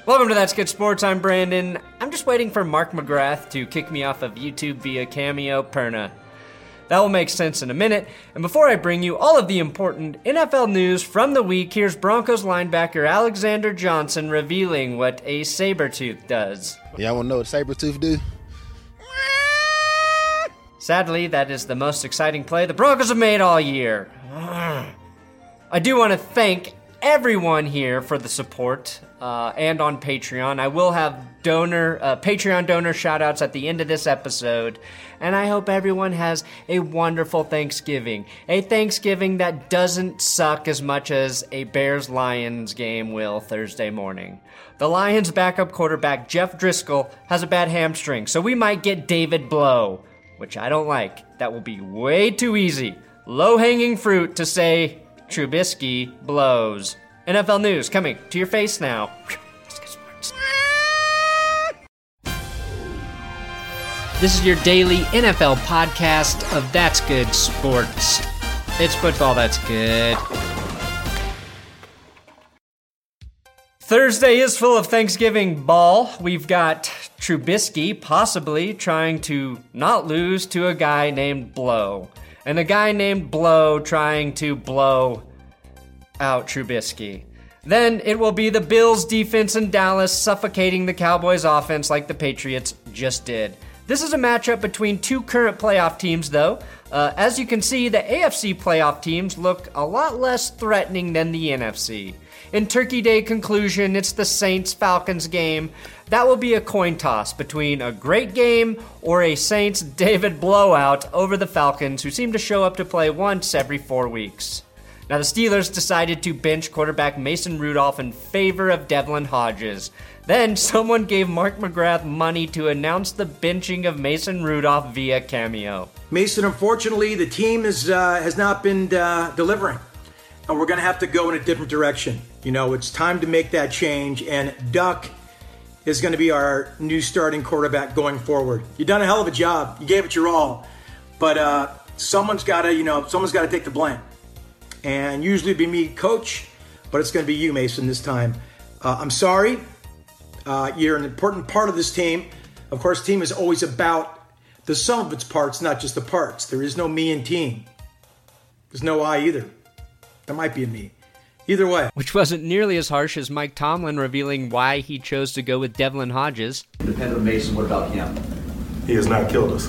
Welcome to That's Good Sports. I'm Brandon. I'm just waiting for Mark McGrath to kick me off of YouTube via Cameo Perna. That will make sense in a minute. And before I bring you all of the important NFL news from the week, here's Broncos linebacker Alexander Johnson revealing what a saber-tooth does. Y'all want to know what a saber-tooth do? Sadly, that is the most exciting play the Broncos have made all year. I do want to thank everyone here for the support and on Patreon. I will have Patreon donor shoutouts at the end of this episode, and I hope everyone has a wonderful Thanksgiving. A Thanksgiving that doesn't suck as much as a Bears-Lions game will Thursday morning. The Lions' backup quarterback, Jeff Driscoll, has a bad hamstring, so we might get David Blough, which I don't like. That will be way too easy. Low-hanging fruit to say Trubisky blows. NFL news coming to your face now. Let's get sports. This is your daily NFL podcast of That's Good Sports. It's football that's good. Thursday is full of Thanksgiving ball. We've got Trubisky possibly trying to not lose to a guy named Blough. And a guy named Blough trying to blow out Trubisky. Then it will be the Bills defense in Dallas suffocating the Cowboys offense like the Patriots just did. This is a matchup between two current playoff teams, though. As you can see, the AFC playoff teams look a lot less threatening than the NFC. In Turkey Day conclusion, it's the Saints-Falcons game. That will be a coin toss between a great game or a Saints-David blowout over the Falcons, who seem to show up to play once every 4 weeks. Now, the Steelers decided to bench quarterback Mason Rudolph in favor of Devlin Hodges. Then, someone gave Mark McGrath money to announce the benching of Mason Rudolph via Cameo. Mason, unfortunately, the team has not been delivering. And we're going to have to go in a different direction. You know, it's time to make that change, and Duck is going to be our new starting quarterback going forward. You've done a hell of a job. You gave it your all. But someone's got to take the blame. And usually it'd be me, coach, but it's going to be you, Mason, this time. I'm sorry. You're an important part of this team. Of course, team is always about the sum of its parts, not just the parts. There is no me in team. There's no I either. There might be a me. Either way. Which wasn't nearly as harsh as Mike Tomlin revealing why he chose to go with Devlin Hodges. Independent of Mason, what about him? He has not killed us.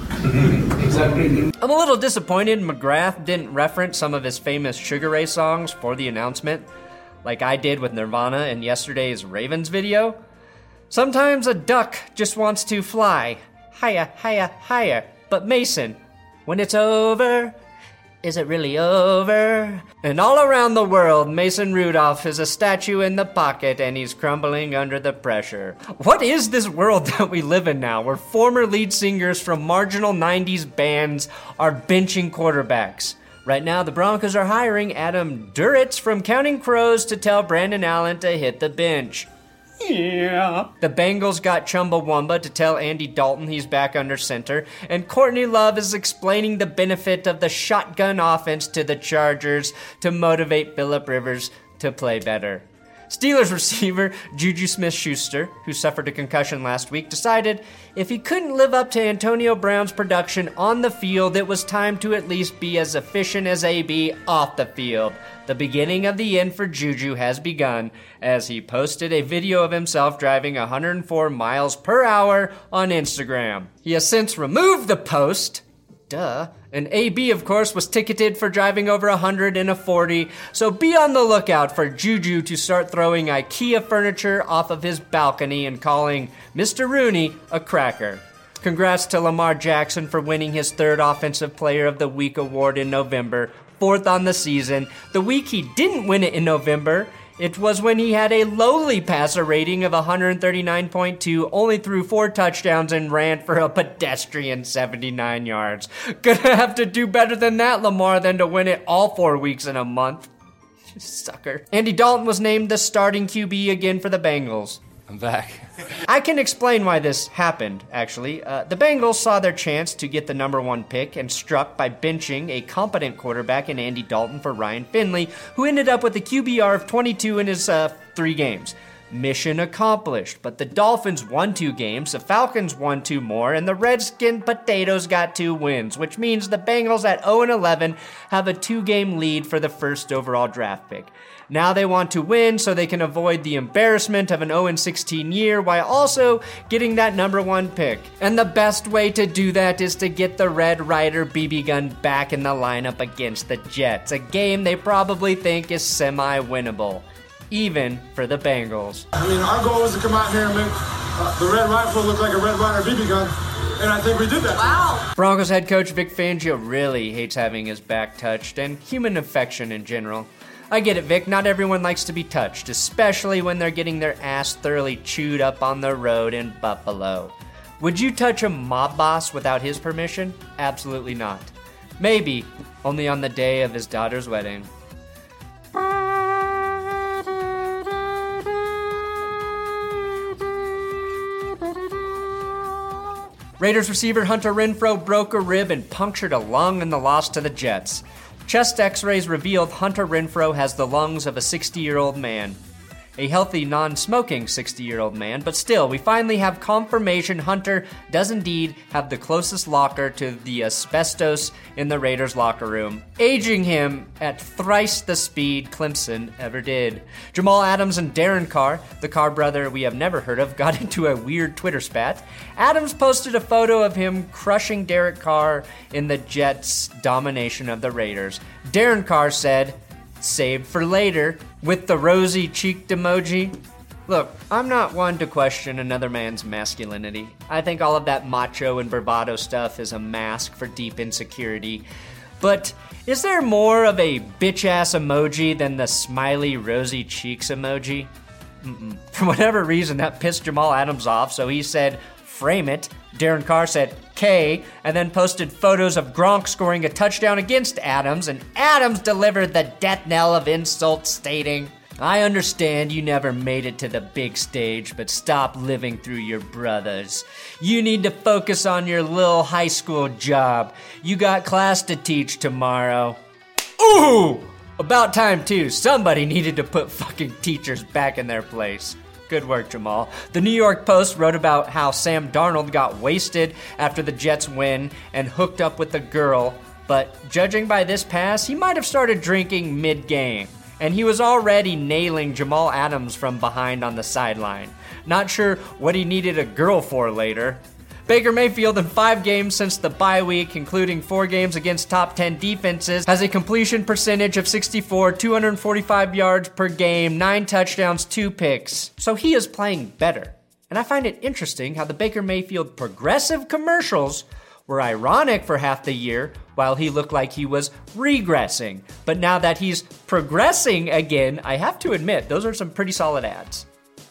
I'm a little disappointed McGrath didn't reference some of his famous Sugar Ray songs for the announcement, like I did with Nirvana in yesterday's Ravens video. Sometimes a duck just wants to fly higher, higher, higher. But Mason, when it's over, is it really over? And all around the world, Mason Rudolph is a statue in the pocket and he's crumbling under the pressure. What is this world that we live in now, where former lead singers from marginal 90s bands are benching quarterbacks? Right now, the Broncos are hiring Adam Duritz from Counting Crows to tell Brandon Allen to hit the bench. Yeah. The Bengals got Chumbawamba to tell Andy Dalton he's back under center, and Courtney Love is explaining the benefit of the shotgun offense to the Chargers to motivate Phillip Rivers to play better. Steelers receiver Juju Smith-Schuster, who suffered a concussion last week, decided if he couldn't live up to Antonio Brown's production on the field, it was time to at least be as efficient as AB off the field. The beginning of the end for Juju has begun as he posted a video of himself driving 104 miles per hour on Instagram. He has since removed the post. Duh. And AB, of course, was ticketed for driving over 100 in a 40, so be on the lookout for Juju to start throwing IKEA furniture off of his balcony and calling Mr. Rooney a cracker. Congrats to Lamar Jackson for winning his third Offensive Player of the Week award in November, fourth on the season. The week he didn't win it in November, it was when he had a lowly passer rating of 139.2, only threw 4 touchdowns and ran for a pedestrian 79 yards. Gonna have to do better than that, Lamar, than to win it all 4 weeks in a month. Sucker. Andy Dalton was named the starting QB again for the Bengals. I'm back. I can explain why this happened, actually. The Bengals saw their chance to get the number 1 pick and struck by benching a competent quarterback in Andy Dalton for Ryan Finley, who ended up with a QBR of 22 in his 3 games. Mission accomplished, but the Dolphins won 2 games, the Falcons won 2 more, and the Redskin Potatoes got 2 wins, which means the Bengals at 0-11 have a 2-game lead for the first overall draft pick. Now they want to win so they can avoid the embarrassment of an 0-16 year while also getting that number 1 pick. And the best way to do that is to get the Red Ryder BB gun back in the lineup against the Jets, a game they probably think is semi-winnable, even for the Bengals. I mean, our goal was to come out here and make the Red Rifle look like a Red Ryder BB gun, and I think we did that. Wow. Broncos head coach Vic Fangio really hates having his back touched, and human affection in general. I get it, Vic, not everyone likes to be touched, especially when they're getting their ass thoroughly chewed up on the road in Buffalo. Would you touch a mob boss without his permission? Absolutely not. Maybe, only on the day of his daughter's wedding. Raiders receiver Hunter Renfrow broke a rib and punctured a lung in the loss to the Jets. Chest x-rays revealed Hunter Renfrow has the lungs of a 60-year-old man. A healthy, non-smoking 60-year-old man, but still, we finally have confirmation Hunter does indeed have the closest locker to the asbestos in the Raiders locker room, aging him at thrice the speed Clemson ever did. Jamal Adams and Darren Carr, the Carr brother we have never heard of, got into a weird Twitter spat. Adams posted a photo of him crushing Derek Carr in the Jets' domination of the Raiders. Darren Carr said, "Saved for later," with the rosy-cheeked emoji. Look, I'm not one to question another man's masculinity. I think all of that macho and bravado stuff is a mask for deep insecurity. But is there more of a bitch-ass emoji than the smiley rosy cheeks emoji? For whatever reason, that pissed Jamal Adams off, so he said, "Frame it." Darren Carr said K, and then posted photos of Gronk scoring a touchdown against Adams, and Adams delivered the death knell of insults, stating, "I understand you never made it to the big stage, but stop living through your brothers. You need to focus on your little high school job. You got class to teach tomorrow." Ooh! About time too. Somebody needed to put fucking teachers back in their place. Good work, Jamal. The New York Post wrote about how Sam Darnold got wasted after the Jets win and hooked up with a girl, but judging by this pass, he might have started drinking mid-game. And he was already nailing Jamal Adams from behind on the sideline. Not sure what he needed a girl for later. Baker Mayfield in 5 games since the bye week, including 4 games against top 10 defenses, has a completion percentage of 64, 245 yards per game, 9 touchdowns, 2 picks. So he is playing better. And I find it interesting how the Baker Mayfield progressive commercials were ironic for half the year while he looked like he was regressing. But now that he's progressing again, I have to admit, those are some pretty solid ads.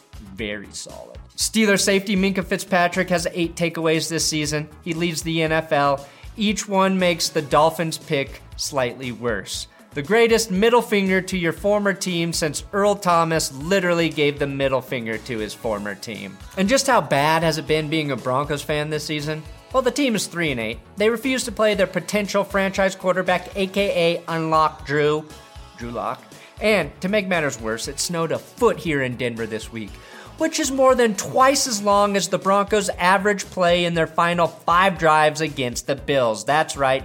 Very solid. Steelers safety Minkah Fitzpatrick has 8 takeaways this season. He leads the NFL. Each one makes the Dolphins pick slightly worse. The greatest middle finger to your former team since Earl Thomas literally gave the middle finger to his former team. And just how bad has it been being a Broncos fan this season? Well, the team is 3-8. They refuse to play their potential franchise quarterback, aka Unlock Drew Lock. And to make matters worse, it snowed a foot here in Denver this week, which is more than twice as long as the Broncos' average play in their final 5 drives against the Bills. That's right,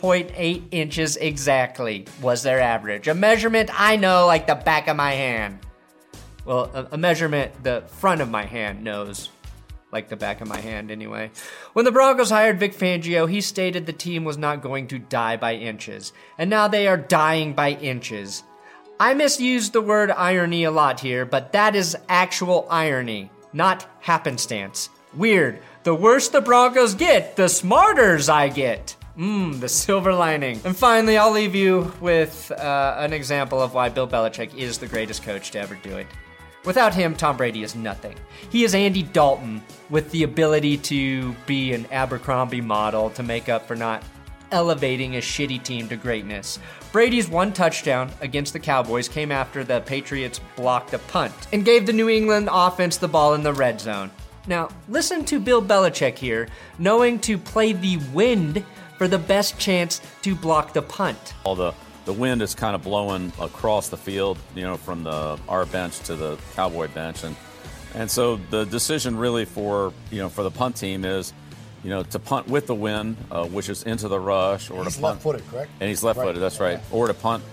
4.8 inches exactly was their average. A measurement I know like the back of my hand. Well, a measurement the front of my hand knows like the back of my hand anyway. When the Broncos hired Vic Fangio, he stated the team was not going to die by inches. And now they are dying by inches. I misused the word irony a lot here, but that is actual irony, not happenstance. Weird. The worse the Broncos get, the smarters I get. The silver lining. And finally, I'll leave you with an example of why Bill Belichick is the greatest coach to ever do it. Without him, Tom Brady is nothing. He is Andy Dalton with the ability to be an Abercrombie model to make up for not elevating a shitty team to greatness. Brady's 1 touchdown against the Cowboys came after the Patriots blocked a punt and gave the New England offense the ball in the red zone. Now, listen to Bill Belichick here, knowing to play the wind for the best chance to block the punt. All the wind is kind of blowing across the field, from our bench to the Cowboy bench, and And so the decision really for the punt team is, to punt with the wind, which is into the rush, or he's to punt. Left-footed, correct? And he's left-footed. That's right. Yeah. Or to punt,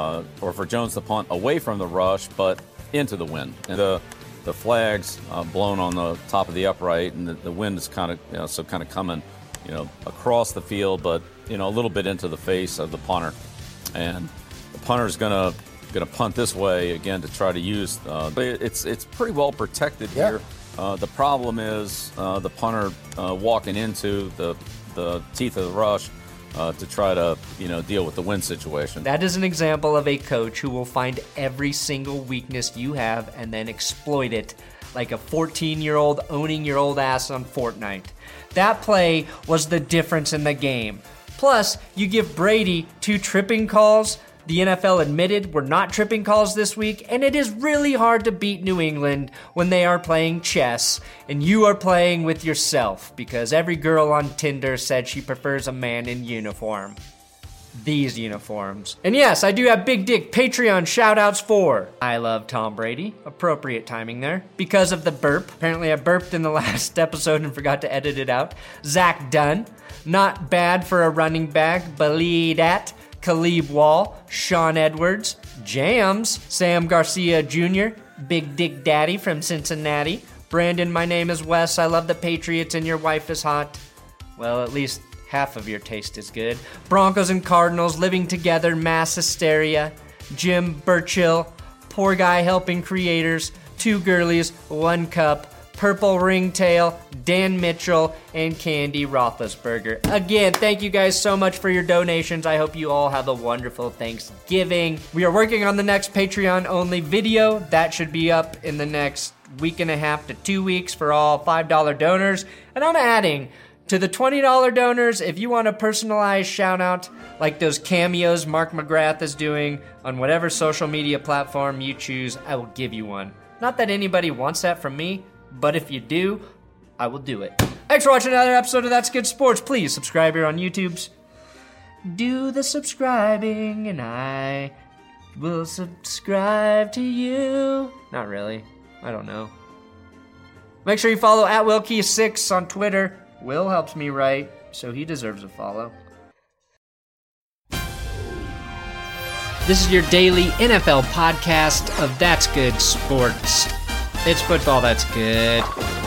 or for Jones to punt away from the rush, but into the wind. And the flag's blown on the top of the upright, and the wind is kind of coming, across the field, but a little bit into the face of the punter, and the punter's gonna punt this way again to try to use. It's pretty well protected here. The problem is the punter walking into the teeth of the rush to try to deal with the wind situation. That is an example of a coach who will find every single weakness you have and then exploit it like a 14-year-old owning your old ass on Fortnite. That play was the difference in the game. Plus, you give Brady 2 tripping calls. The NFL admitted were not tripping calls this week, and it is really hard to beat New England when they are playing chess and you are playing with yourself, because every girl on Tinder said she prefers a man in uniform. These uniforms. And yes, I do have big dick Patreon shoutouts for I Love Tom Brady. Appropriate timing there. Because of the burp. Apparently I burped in the last episode and forgot to edit it out. Zach Dunn. Not bad for a running back. Believe that. Khalib Wall, Sean Edwards, Jams, Sam Garcia Jr., Big Dick Daddy from Cincinnati, Brandon, my name is Wes, I love the Patriots and your wife is hot. Well, at least half of your taste is good. Broncos and Cardinals living together, mass hysteria, Jim Burchill, Poor Guy Helping Creators, 2 Girlies, 1 Cup, Purple Ringtail, Dan Mitchell, and Candy Roethlisberger. Again, thank you guys so much for your donations. I hope you all have a wonderful Thanksgiving. We are working on the next Patreon-only video. That should be up in the next week and a half to 2 weeks for all $5 donors. And I'm adding to the $20 donors, if you want a personalized shout-out like those cameos Mark McGrath is doing on whatever social media platform you choose, I will give you one. Not that anybody wants that from me, but if you do, I will do it. Thanks for watching another episode of That's Good Sports. Please subscribe here on YouTube's. Do the subscribing and I will subscribe to you. Not really. I don't know. Make sure you follow @WillKey6 on Twitter. Will helps me write, so he deserves a follow. This is your daily NFL podcast of That's Good Sports. It's football that's good.